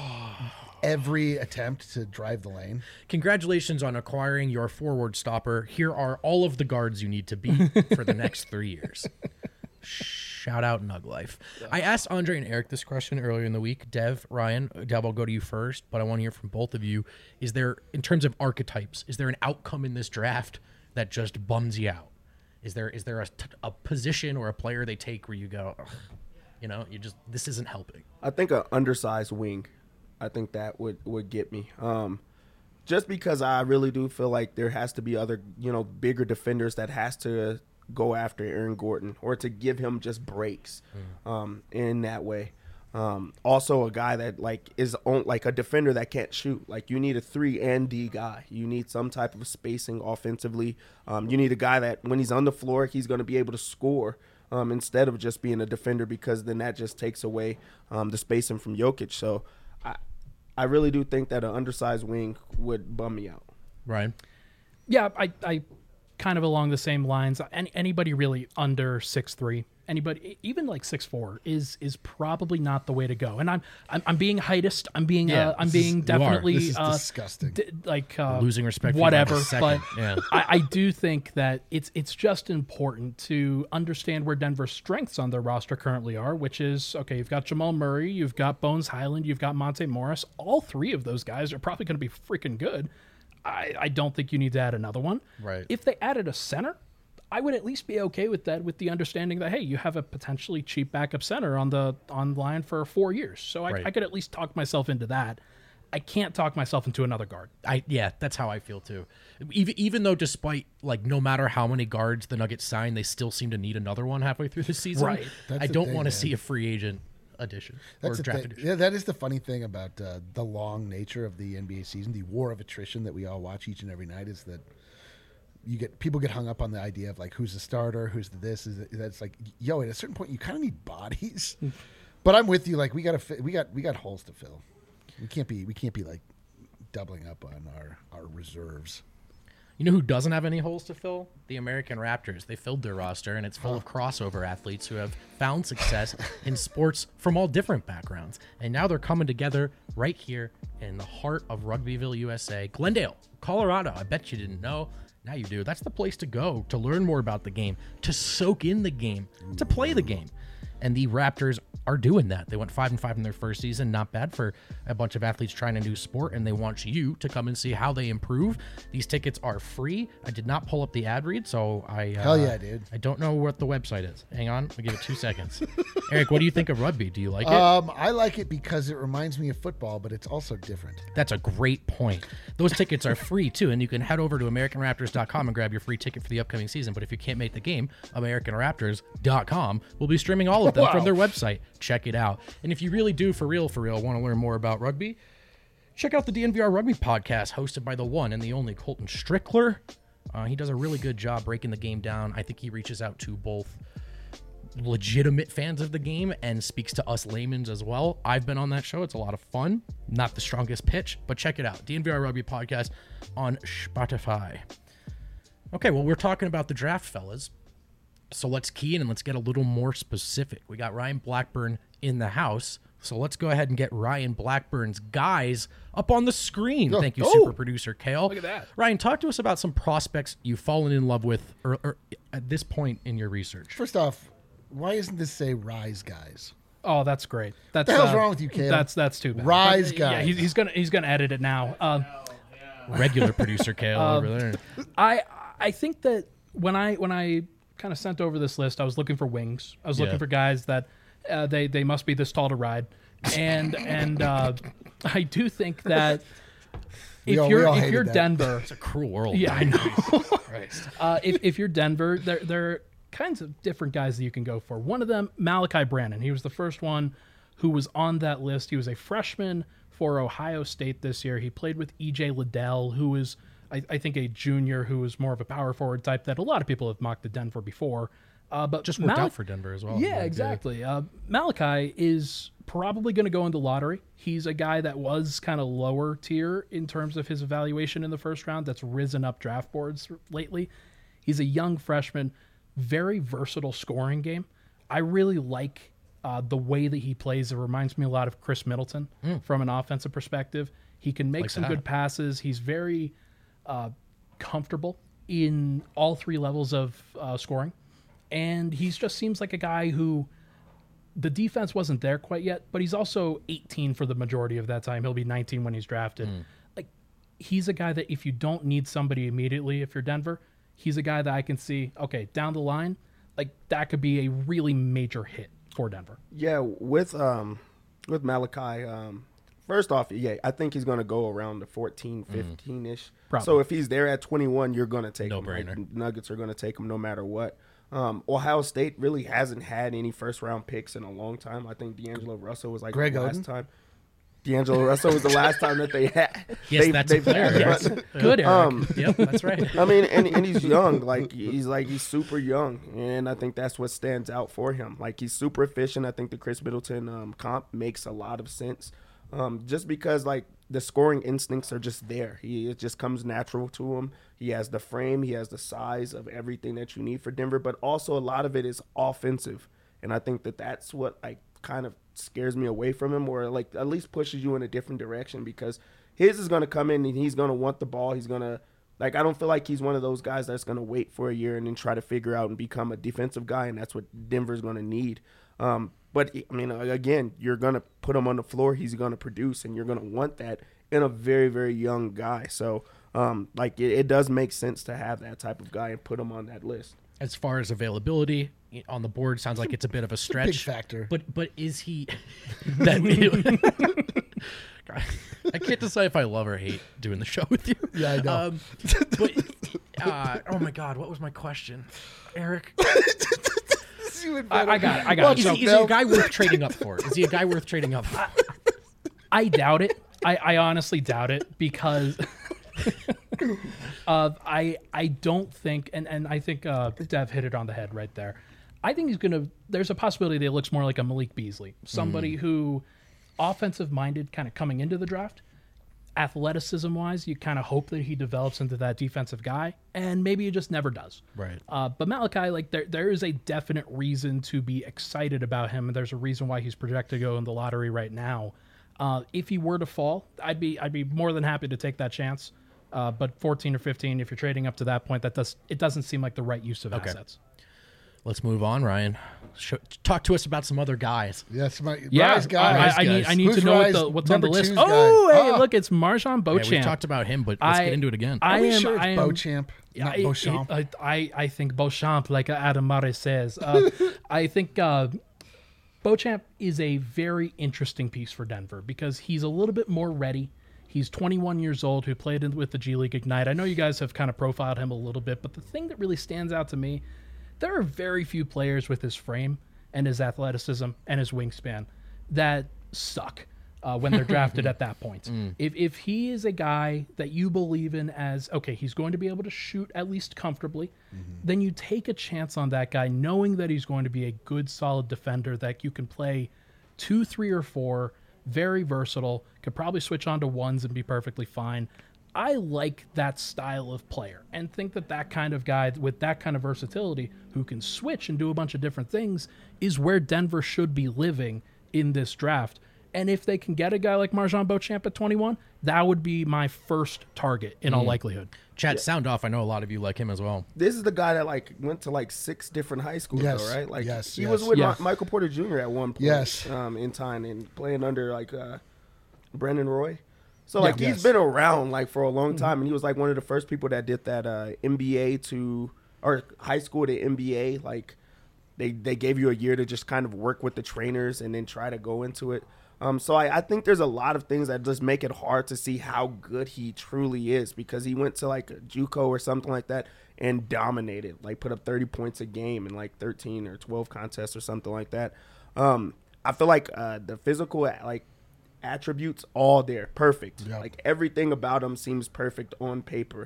every attempt to drive the lane.
Congratulations on acquiring your forward stopper. Here are all of the guards you need to beat for the next 3 years. Shout out Nug Life. I asked Andre and Eric this question earlier in the week. Dev, Ryan, Dev, I'll go to you first, but I want to hear from both of you. Is there, in terms of archetypes, is there an outcome in this draft that just bums you out? Is there a position or a player they take where you go, ugh, this isn't helping?
I think an undersized wing. I think that would get me. Just because I really do feel like there has to be other, bigger defenders that has to go after Aaron Gordon or to give him just breaks in that way. Also a guy that is a defender that can't shoot. Like you need a 3 and D guy. You need some type of spacing offensively. You need a guy that when he's on the floor, he's going to be able to score instead of just being a defender because then that just takes away the spacing from Jokic. So I really do think that an undersized wing would bum me out.
Ryan?
Yeah, I kind of along the same lines. Anybody really under 6'3", anybody, even like 6'4", is probably not the way to go. And I'm being heightist. I'm being definitely
This is disgusting.
Losing respect for you
whatever.
by the second.
But
Yeah.
I do think that it's just important to understand where Denver's strengths on their roster currently are, which is, okay, you've got Jamal Murray, you've got Bones Highland, you've got Monte Morris. All three of those guys are probably going to be freaking good. I don't think you need to add another one.
Right.
If they added a center, I would at least be okay with that, with the understanding that, hey, you have a potentially cheap backup center on line for 4 years. So I could at least talk myself into that. I can't talk myself into another guard.
That's how I feel too. Even though, despite like no matter how many guards the Nuggets sign, they still seem to need another one halfway through the season.
Right.
I don't want to see a free agent addition or draft addition.
Yeah, that is the funny thing about the long nature of the NBA season, the war of attrition that we all watch each and every night, is that people get hung up on the idea of like who's the starter, who's the this. That's like, yo, at a certain point you kind of need bodies. But I'm with you. Like we got holes to fill. We can't be like doubling up on our reserves.
You know who doesn't have any holes to fill? The American Raptors. They filled their roster, and it's full of crossover athletes who have found success in sports from all different backgrounds. And now they're coming together right here in the heart of Rugbyville, USA. Glendale, Colorado. I bet you didn't know. Now you do. That's the place to go to learn more about the game, to soak in the game, to play the game. And the Raptors are doing that. They went 5-5 in their first season. Not bad for a bunch of athletes trying a new sport, and they want you to come and see how they improve. These tickets are free. I did not pull up the ad read, so
Hell yeah, dude.
I don't know what the website is. Hang on. I'll give it 2 seconds. Eric, what do you think of rugby? Do you like it?
I like it because it reminds me of football, but it's also different.
That's a great point. Those tickets are free, too, and you can head over to AmericanRaptors.com and grab your free ticket for the upcoming season. But if you can't make the game, AmericanRaptors.com will be streaming all of them from their website. Check it out. And if you really do, for real, want to learn more about rugby, check out the DNVR Rugby podcast hosted by the one and the only Colton Strickler. He does a really good job breaking the game down. I think he reaches out to both legitimate fans of the game and speaks to us laymen as well. I've been on that show. It's a lot of fun. Not the strongest pitch, but check it out. DNVR Rugby podcast on Spotify. Okay, well, we're talking about the draft, fellas. So let's key in and let's get a little more specific. We got Ryan Blackburn in the house. So let's go ahead and get Ryan Blackburn's guys up on the screen. Thank you, super producer Kale.
Look at that.
Ryan, talk to us about some prospects you've fallen in love with or at this point in your research.
First off, why isn't this say Rise Guys?
Oh, that's great. That's
What the hell's wrong with you, Kale?
That's too bad.
Rise
But,
Guys.
Yeah, he's gonna edit it now.
Regular producer Kale over there.
I think that when I kind of sent over this list, I was looking for wings. I was looking for guys that they must be this tall to ride, and I do think that if you're Denver,
It's a cruel world.
yeah, I know.
Christ.
If you're Denver, there are kinds of different guys that you can go for. One of them, Malachi Brannon. He was the first one who was on that list. He was a freshman for Ohio State this year. He played with E.J. Liddell, who is, I think, a junior who is more of a power forward type that a lot of people have mocked at Denver before. But
Just worked out for Denver as well.
Yeah, exactly. Malachi is probably going to go in the lottery. He's a guy that was kind of lower tier in terms of his evaluation in the first round that's risen up draft boards lately. He's a young freshman, very versatile scoring game. I really like the way that he plays. It reminds me a lot of Chris Middleton from an offensive perspective. He can make some good passes. He's very comfortable in all three levels of scoring. And he just seems like a guy who the defense wasn't there quite yet, but he's also 18 for the majority of that time. He'll be 19 when he's drafted. Like, he's a guy that if you don't need somebody immediately, if you're Denver, he's a guy that I can see, okay, down the line, like that could be a really major hit for Denver.
Yeah, with Malachi, first off, yeah, I think he's going to go around the 14, 15-ish.
Probably.
So if he's there at 21, you're going to take him.
No-brainer.
Like, Nuggets are going to take him no matter what. Ohio State really hasn't had any first-round picks in a long time. I think D'Angelo Russell was like
Greg
the last
Oden?
time. D'Angelo Russell was the last time that they had.
Yes, that's a player. Yes.
Good, Eric.
Yep, that's right.
I mean, and he's young. He's super young, and I think that's what stands out for him. Like, he's super efficient. I think the Chris Middleton comp makes a lot of sense. just because like the scoring instincts are just there. It just comes natural to him. He has the frame, he has the size of everything that you need for Denver, but also a lot of it is offensive. And I think that that's what like kind of scares me away from him, or like at least pushes you in a different direction, because his is going to come in and he's going to want the ball. He's going to, like, I don't feel like he's one of those guys that's going to wait for a year and then try to figure out and become a defensive guy, and that's what Denver's going to need. But, I mean, again, you're going to put him on the floor. He's going to produce, and you're going to want that in a very, very young guy. So, like, it does make sense to have that type of guy and put him on that list.
As far as availability on the board, sounds like it's a bit of a stretch.
Big factor.
But is he that I can't decide if I love or hate doing the show with you.
Yeah, I know.
Oh my God, what was my question, Eric?
I got it.
Is he a guy worth trading up for? Is he a guy worth trading up for?
I doubt it. I honestly doubt it, because I don't think, and I think Dev hit it on the head right there. I think there's a possibility that it looks more like a Malik Beasley, somebody who, offensive-minded, kind of coming into the draft. Athleticism-wise, you kind of hope that he develops into that defensive guy, and maybe he just never does.
Right.
But Malachi, like, there is a definite reason to be excited about him, and there's a reason why he's projected to go in the lottery right now. If he were to fall, I'd be more than happy to take that chance. But 14 or 15, if you're trading up to that point, it doesn't seem like the right use of assets.
Let's move on, Ryan. Talk to us about some other guys.
Yes,
Yeah,
Rise guys.
I need
Who's
to know
Rise
what's on the
number
list.
two's
Oh,
guy?
hey, look, it's Marjan Beauchamp.
Yeah, we talked about him, but let's get into it again.
Are we sure it's Beauchamp, not Beauchamp?
I think Beauchamp, like Adam Murray says. I think Beauchamp is a very interesting piece for Denver, because he's a little bit more ready. He's 21 years old, who played with the G League Ignite. I know you guys have kind of profiled him a little bit, but the thing that really stands out to me, there are very few players with his frame and his athleticism and his wingspan that suck when they're drafted at that point. If he is a guy that you believe in as, okay, he's going to be able to shoot at least comfortably, then you take a chance on that guy, knowing that he's going to be a good, solid defender that you can play 2, 3, or 4, very versatile, could probably switch on to ones and be perfectly fine. I like that style of player, and think that kind of guy with that kind of versatility, who can switch and do a bunch of different things, is where Denver should be living in this draft. And if they can get a guy like Marjan Beauchamp at 21, that would be my first target in all likelihood.
Chad, sound off. I know a lot of you like him as well.
This is the guy that like went to like 6 different high schools,
Yes,
though, right? Like
yes,
he
yes.
was with
Yeah.
Michael Porter Jr. at one point,
Yes.
in time, and playing under like Brandon Roy. So like
Yes.
he's been around like for a long time, and he was like one of the first people that did that MBA or high school to MBA. Like they gave you a year to just kind of work with the trainers and then try to go into it. So I think there's a lot of things that just make it hard to see how good he truly is, because he went to like a JUCO or something like that and dominated, like put up 30 points a game in like 13 or 12 contests or something like that. I feel like the physical like attributes all there, perfect.
Yep.
Like everything about him seems perfect on paper.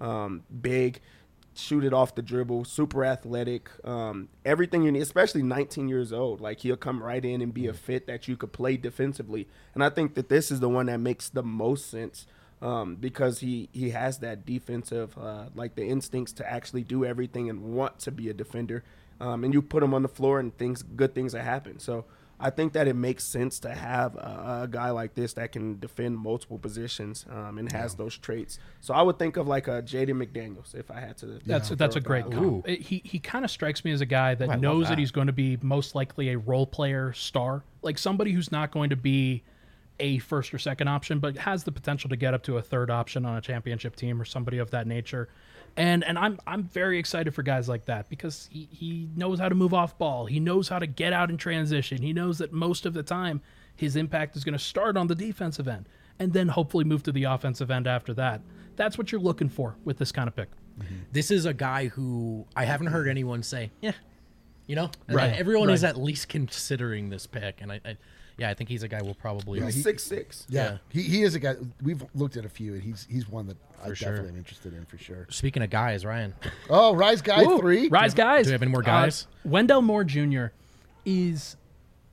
Big, shoot it off the dribble, super athletic, everything you need, especially 19 years old. Like he'll come right in and be a fit that you could play defensively. And I think that this is the one that makes the most sense, because he has that defensive, like the instincts to actually do everything and want to be a defender. And you put him on the floor and good things that happen. So I think that it makes sense to have a guy like this that can defend multiple positions and has those traits. So I would think of like a Jaden McDaniels if I had to.
That's a great comp. He kind of strikes me as a guy that
love
knows
that.
that he's going to be most likely a role player star, like somebody who's not going to be a first or second option, but has the potential to get up to a third option on a championship team or somebody of that nature. And I'm very excited for guys like that, because he knows how to move off ball. He knows how to get out in transition. He knows that most of the time his impact is going to start on the defensive end and then hopefully move to the offensive end after that. That's what you're looking for with this kind of pick.
This is a guy who I haven't heard anyone say, yeah, you know,
Right.
Everyone is
Right.
at least considering this pick, and I think he's a guy we'll probably.
He's 6'6".
Yeah, he is a guy. We've looked at a few, and he's one that I
sure.
definitely am interested in for sure.
Speaking of guys, Ryan,
Oh, Rise Guy
Ooh,
3.
Rise guys.
do we have any more guys?
Wendell Moore Jr. is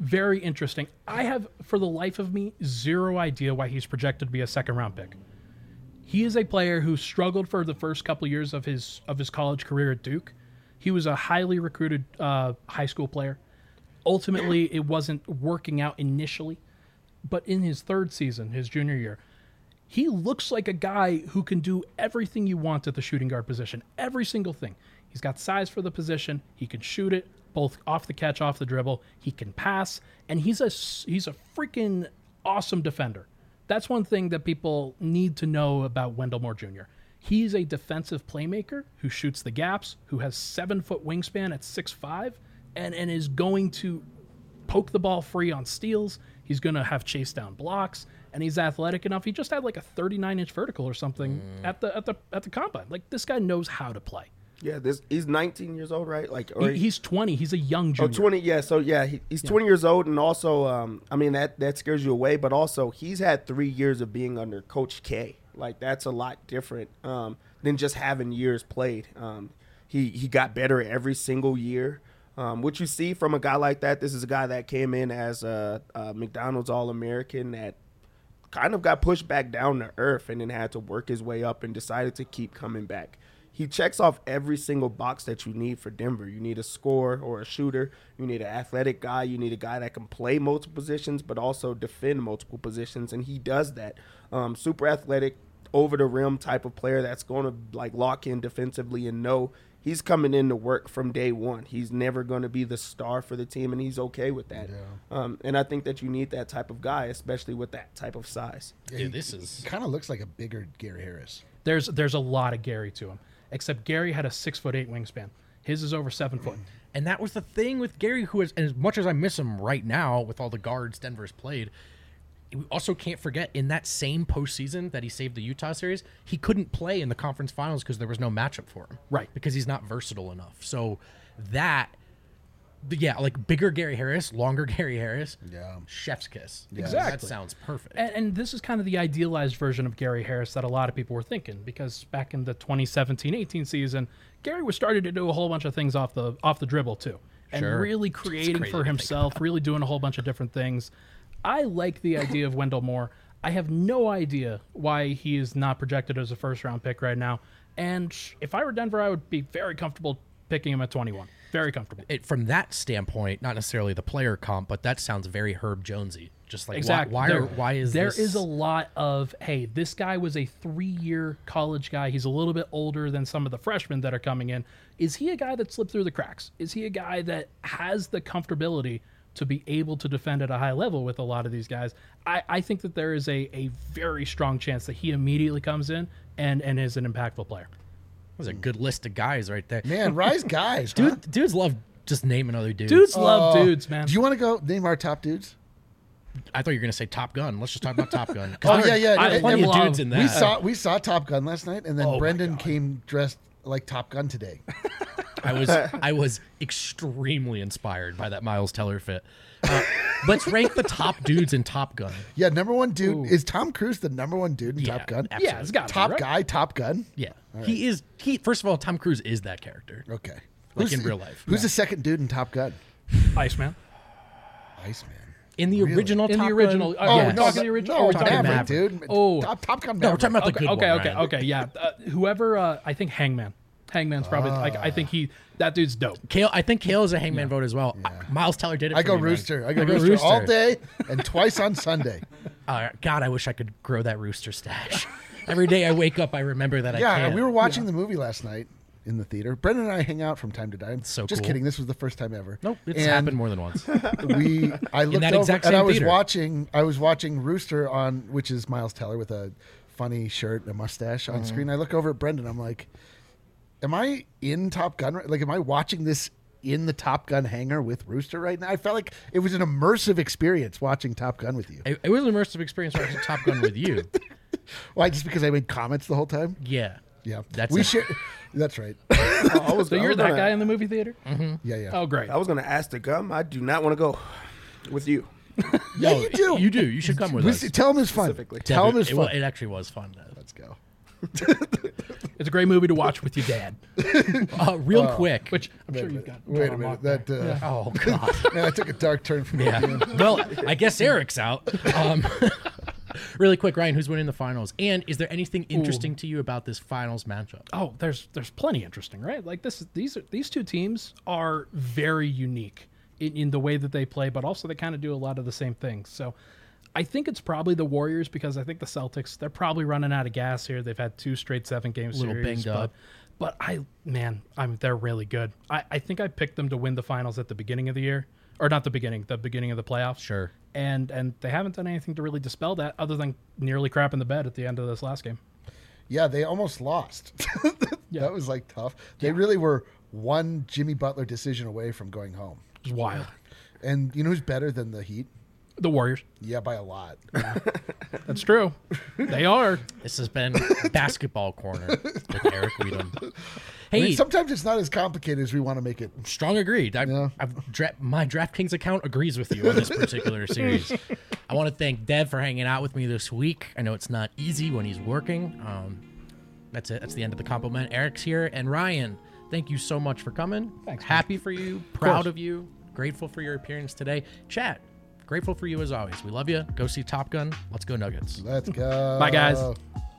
very interesting. I have, for the life of me, zero idea why he's projected to be a second-round pick. He is a player who struggled for the first couple years of his college career at Duke. He was a highly recruited high school player. Ultimately, it wasn't working out initially, but in his third season, his junior year, he looks like a guy who can do everything you want at the shooting guard position, every single thing. He's got size for the position. He can shoot it, both off the catch, off the dribble. He can pass, and he's a freaking awesome defender. That's one thing that people need to know about Wendell Moore Jr. He's a defensive playmaker who shoots the gaps, who has 7-foot wingspan at 6'5", and is going to poke the ball free on steals. He's going to have chase down blocks, and he's athletic enough. He just had like a 39-inch vertical or something at the combine. Like, this guy knows how to play.
Yeah, he's 19 years old, right? Like,
He's 20. He's a young junior.
20. Yeah, so yeah, he's 20 years old, and also, I mean, that scares you away. But also, he's had 3 years of being under Coach K. Like, that's a lot different than just having years played. He got better every single year. What you see from a guy like that, this is a guy that came in as a McDonald's All-American that kind of got pushed back down to earth and then had to work his way up and decided to keep coming back. He checks off every single box that you need for Denver. You need a scorer or a shooter. You need an athletic guy. You need a guy that can play multiple positions but also defend multiple positions, and he does that. Super athletic, over the rim type of player that's going to like lock in defensively and know he's coming in to work from day one. He's never going to be the star for the team, and he's okay with that. Yeah. And I think that you need that type of guy, especially with that type of size.
Yeah, this is
kind of looks like a bigger Gary Harris.
There's a lot of Gary to him, except Gary had a 6'8" wingspan. His is over 7 foot.
And that was the thing with Gary, who is, as much as I miss him right now with all the guards Denver's played, we also can't forget in that same postseason that he saved the Utah series, he couldn't play in the conference finals because there was no matchup for him.
Right.
Because he's not versatile enough. So that, yeah, like bigger Gary Harris, longer Gary Harris, chef's kiss.
Yeah.
Exactly.
That sounds perfect.
And this is kind of the idealized version of Gary Harris that a lot of people were thinking, because back in the 2017-18 season, Gary was starting to do a whole bunch of things off the dribble too. And really creating for himself, really doing a whole bunch of different things. I like the idea of Wendell Moore. I have no idea why he is not projected as a first-round pick right now. And if I were Denver, I would be very comfortable picking him at 21. Very comfortable.
From that standpoint, not necessarily the player comp, but that sounds very Herb Jonesy. Just like,
exactly.
why is
there
this?
There is a lot of, hey, this guy was a 3-year college guy. He's a little bit older than some of the freshmen that are coming in. Is he a guy that slipped through the cracks? Is he a guy that has the comfortability to be able to defend at a high level with a lot of these guys? I think that there is a very strong chance that he immediately comes in and is an impactful player.
That was a good list of guys right there.
Man, rise guys. Huh?
Dudes love just naming other dudes.
Dudes love dudes, man.
Do you want to go name our top dudes?
I thought you were going to say Top Gun. Let's just talk about Top Gun.
Oh, yeah.
I plenty of dudes in that.
We saw Top Gun last night, and then Brendan came dressed like Top Gun today.
I was extremely inspired by that Miles Teller fit. Let's rank the top dudes in Top Gun.
Yeah, number one dude. Is Tom Cruise the number one dude in Top Gun?
Absolutely.
Yeah, it's got
top
right?
guy, Top Gun.
Yeah, right. He first of all, Tom Cruise is that character.
Okay,
like in real life.
Who's the second dude in Top Gun?
Iceman.
Iceman.
In the original
In
Top
the original.
Gun?
Oh,
yes.
no, the original.
No,
we're talking
Maverick,
Maverick.
dude.
Oh.
Top Gun
No, we're
Maverick.
talking about the good one. Ryan.
Okay, yeah. Whoever, I think Hangman. Hangman's probably, I think that dude's dope.
Kale, I think Kale is a Hangman vote as well. Miles Teller did it.
I
for
go
me,
Rooster.
man.
I go Rooster all day and twice on Sunday.
God, I wish I could grow that Rooster stash. Every day I wake up, I remember that I can't.
We were watching the movie last night in the theater. Brendan and I hang out from time to time.
So
Just
cool.
kidding. This was the first time ever.
Nope, it's happened more than once.
I looked
that
over
exact
and
same
I was
theater.
watching Rooster on, which is Miles Teller with a funny shirt and a mustache on screen. I look over at Brendan. I'm like, am I in Top Gun? Like, am I watching this in the Top Gun hangar with Rooster right now? I felt like it was an immersive experience watching Top Gun with you.
It was an immersive experience watching Top Gun with you.
Why? Just because I made comments the whole time?
Yeah.
Yeah,
That's
we
it.
share. That's right.
So you're that guy in the movie theater?
Mm-hmm.
Yeah.
Oh, great.
I was going to ask to come. I do not want to go with you.
Yeah, you do.
You do. You should come with us.
Tell him it's fun.
Specifically.
Tell him it's fun.
It actually was fun.
Let's go.
It's a great movie to watch with your dad,
Real quick.
which I'm sure you've got.
Wait a
on
minute.
lock there.
That
Oh, God.
man, I took a dark turn from
Yeah. Well, I guess Eric's out. Really quick, Ryan, who's winning the finals? And is there anything interesting to you about this finals matchup?
Oh, there's plenty interesting, right? Like these two teams are very unique in the way that they play, but also they kind of do a lot of the same things. So I think it's probably the Warriors because I think the Celtics, they're probably running out of gas here. They've had 2 straight 7-game series.
Little banged up.
But they're really good. I think I picked them to win the finals at the beginning of the year. Or not the beginning of the playoffs.
Sure.
And they haven't done anything to really dispel that other than nearly crapping the bed at the end of this last game.
Yeah, they almost lost.
Yeah.
That was like tough. They really were one Jimmy Butler decision away from going home.
It's wild.
And you know who's better than the Heat?
The Warriors.
Yeah, by a lot.
That's true. They are.
This has been Basketball Corner with Eric Weedham.
I
Hey,
mean, sometimes it's not as complicated as we want to make it.
strong agreed.
Yeah.
My DraftKings account agrees with you on this particular series. I want to thank Dev for hanging out with me this week. I know it's not easy when he's working. That's it. That's the end of the compliment. Eric's here. And Ryan, thank you so much for coming.
Thanks, man.
Happy for you. Proud of you. Grateful for your appearance today. Chat, grateful for you as always. We love you. Go see Top Gun. Let's go Nuggets.
Let's go.
Bye, guys.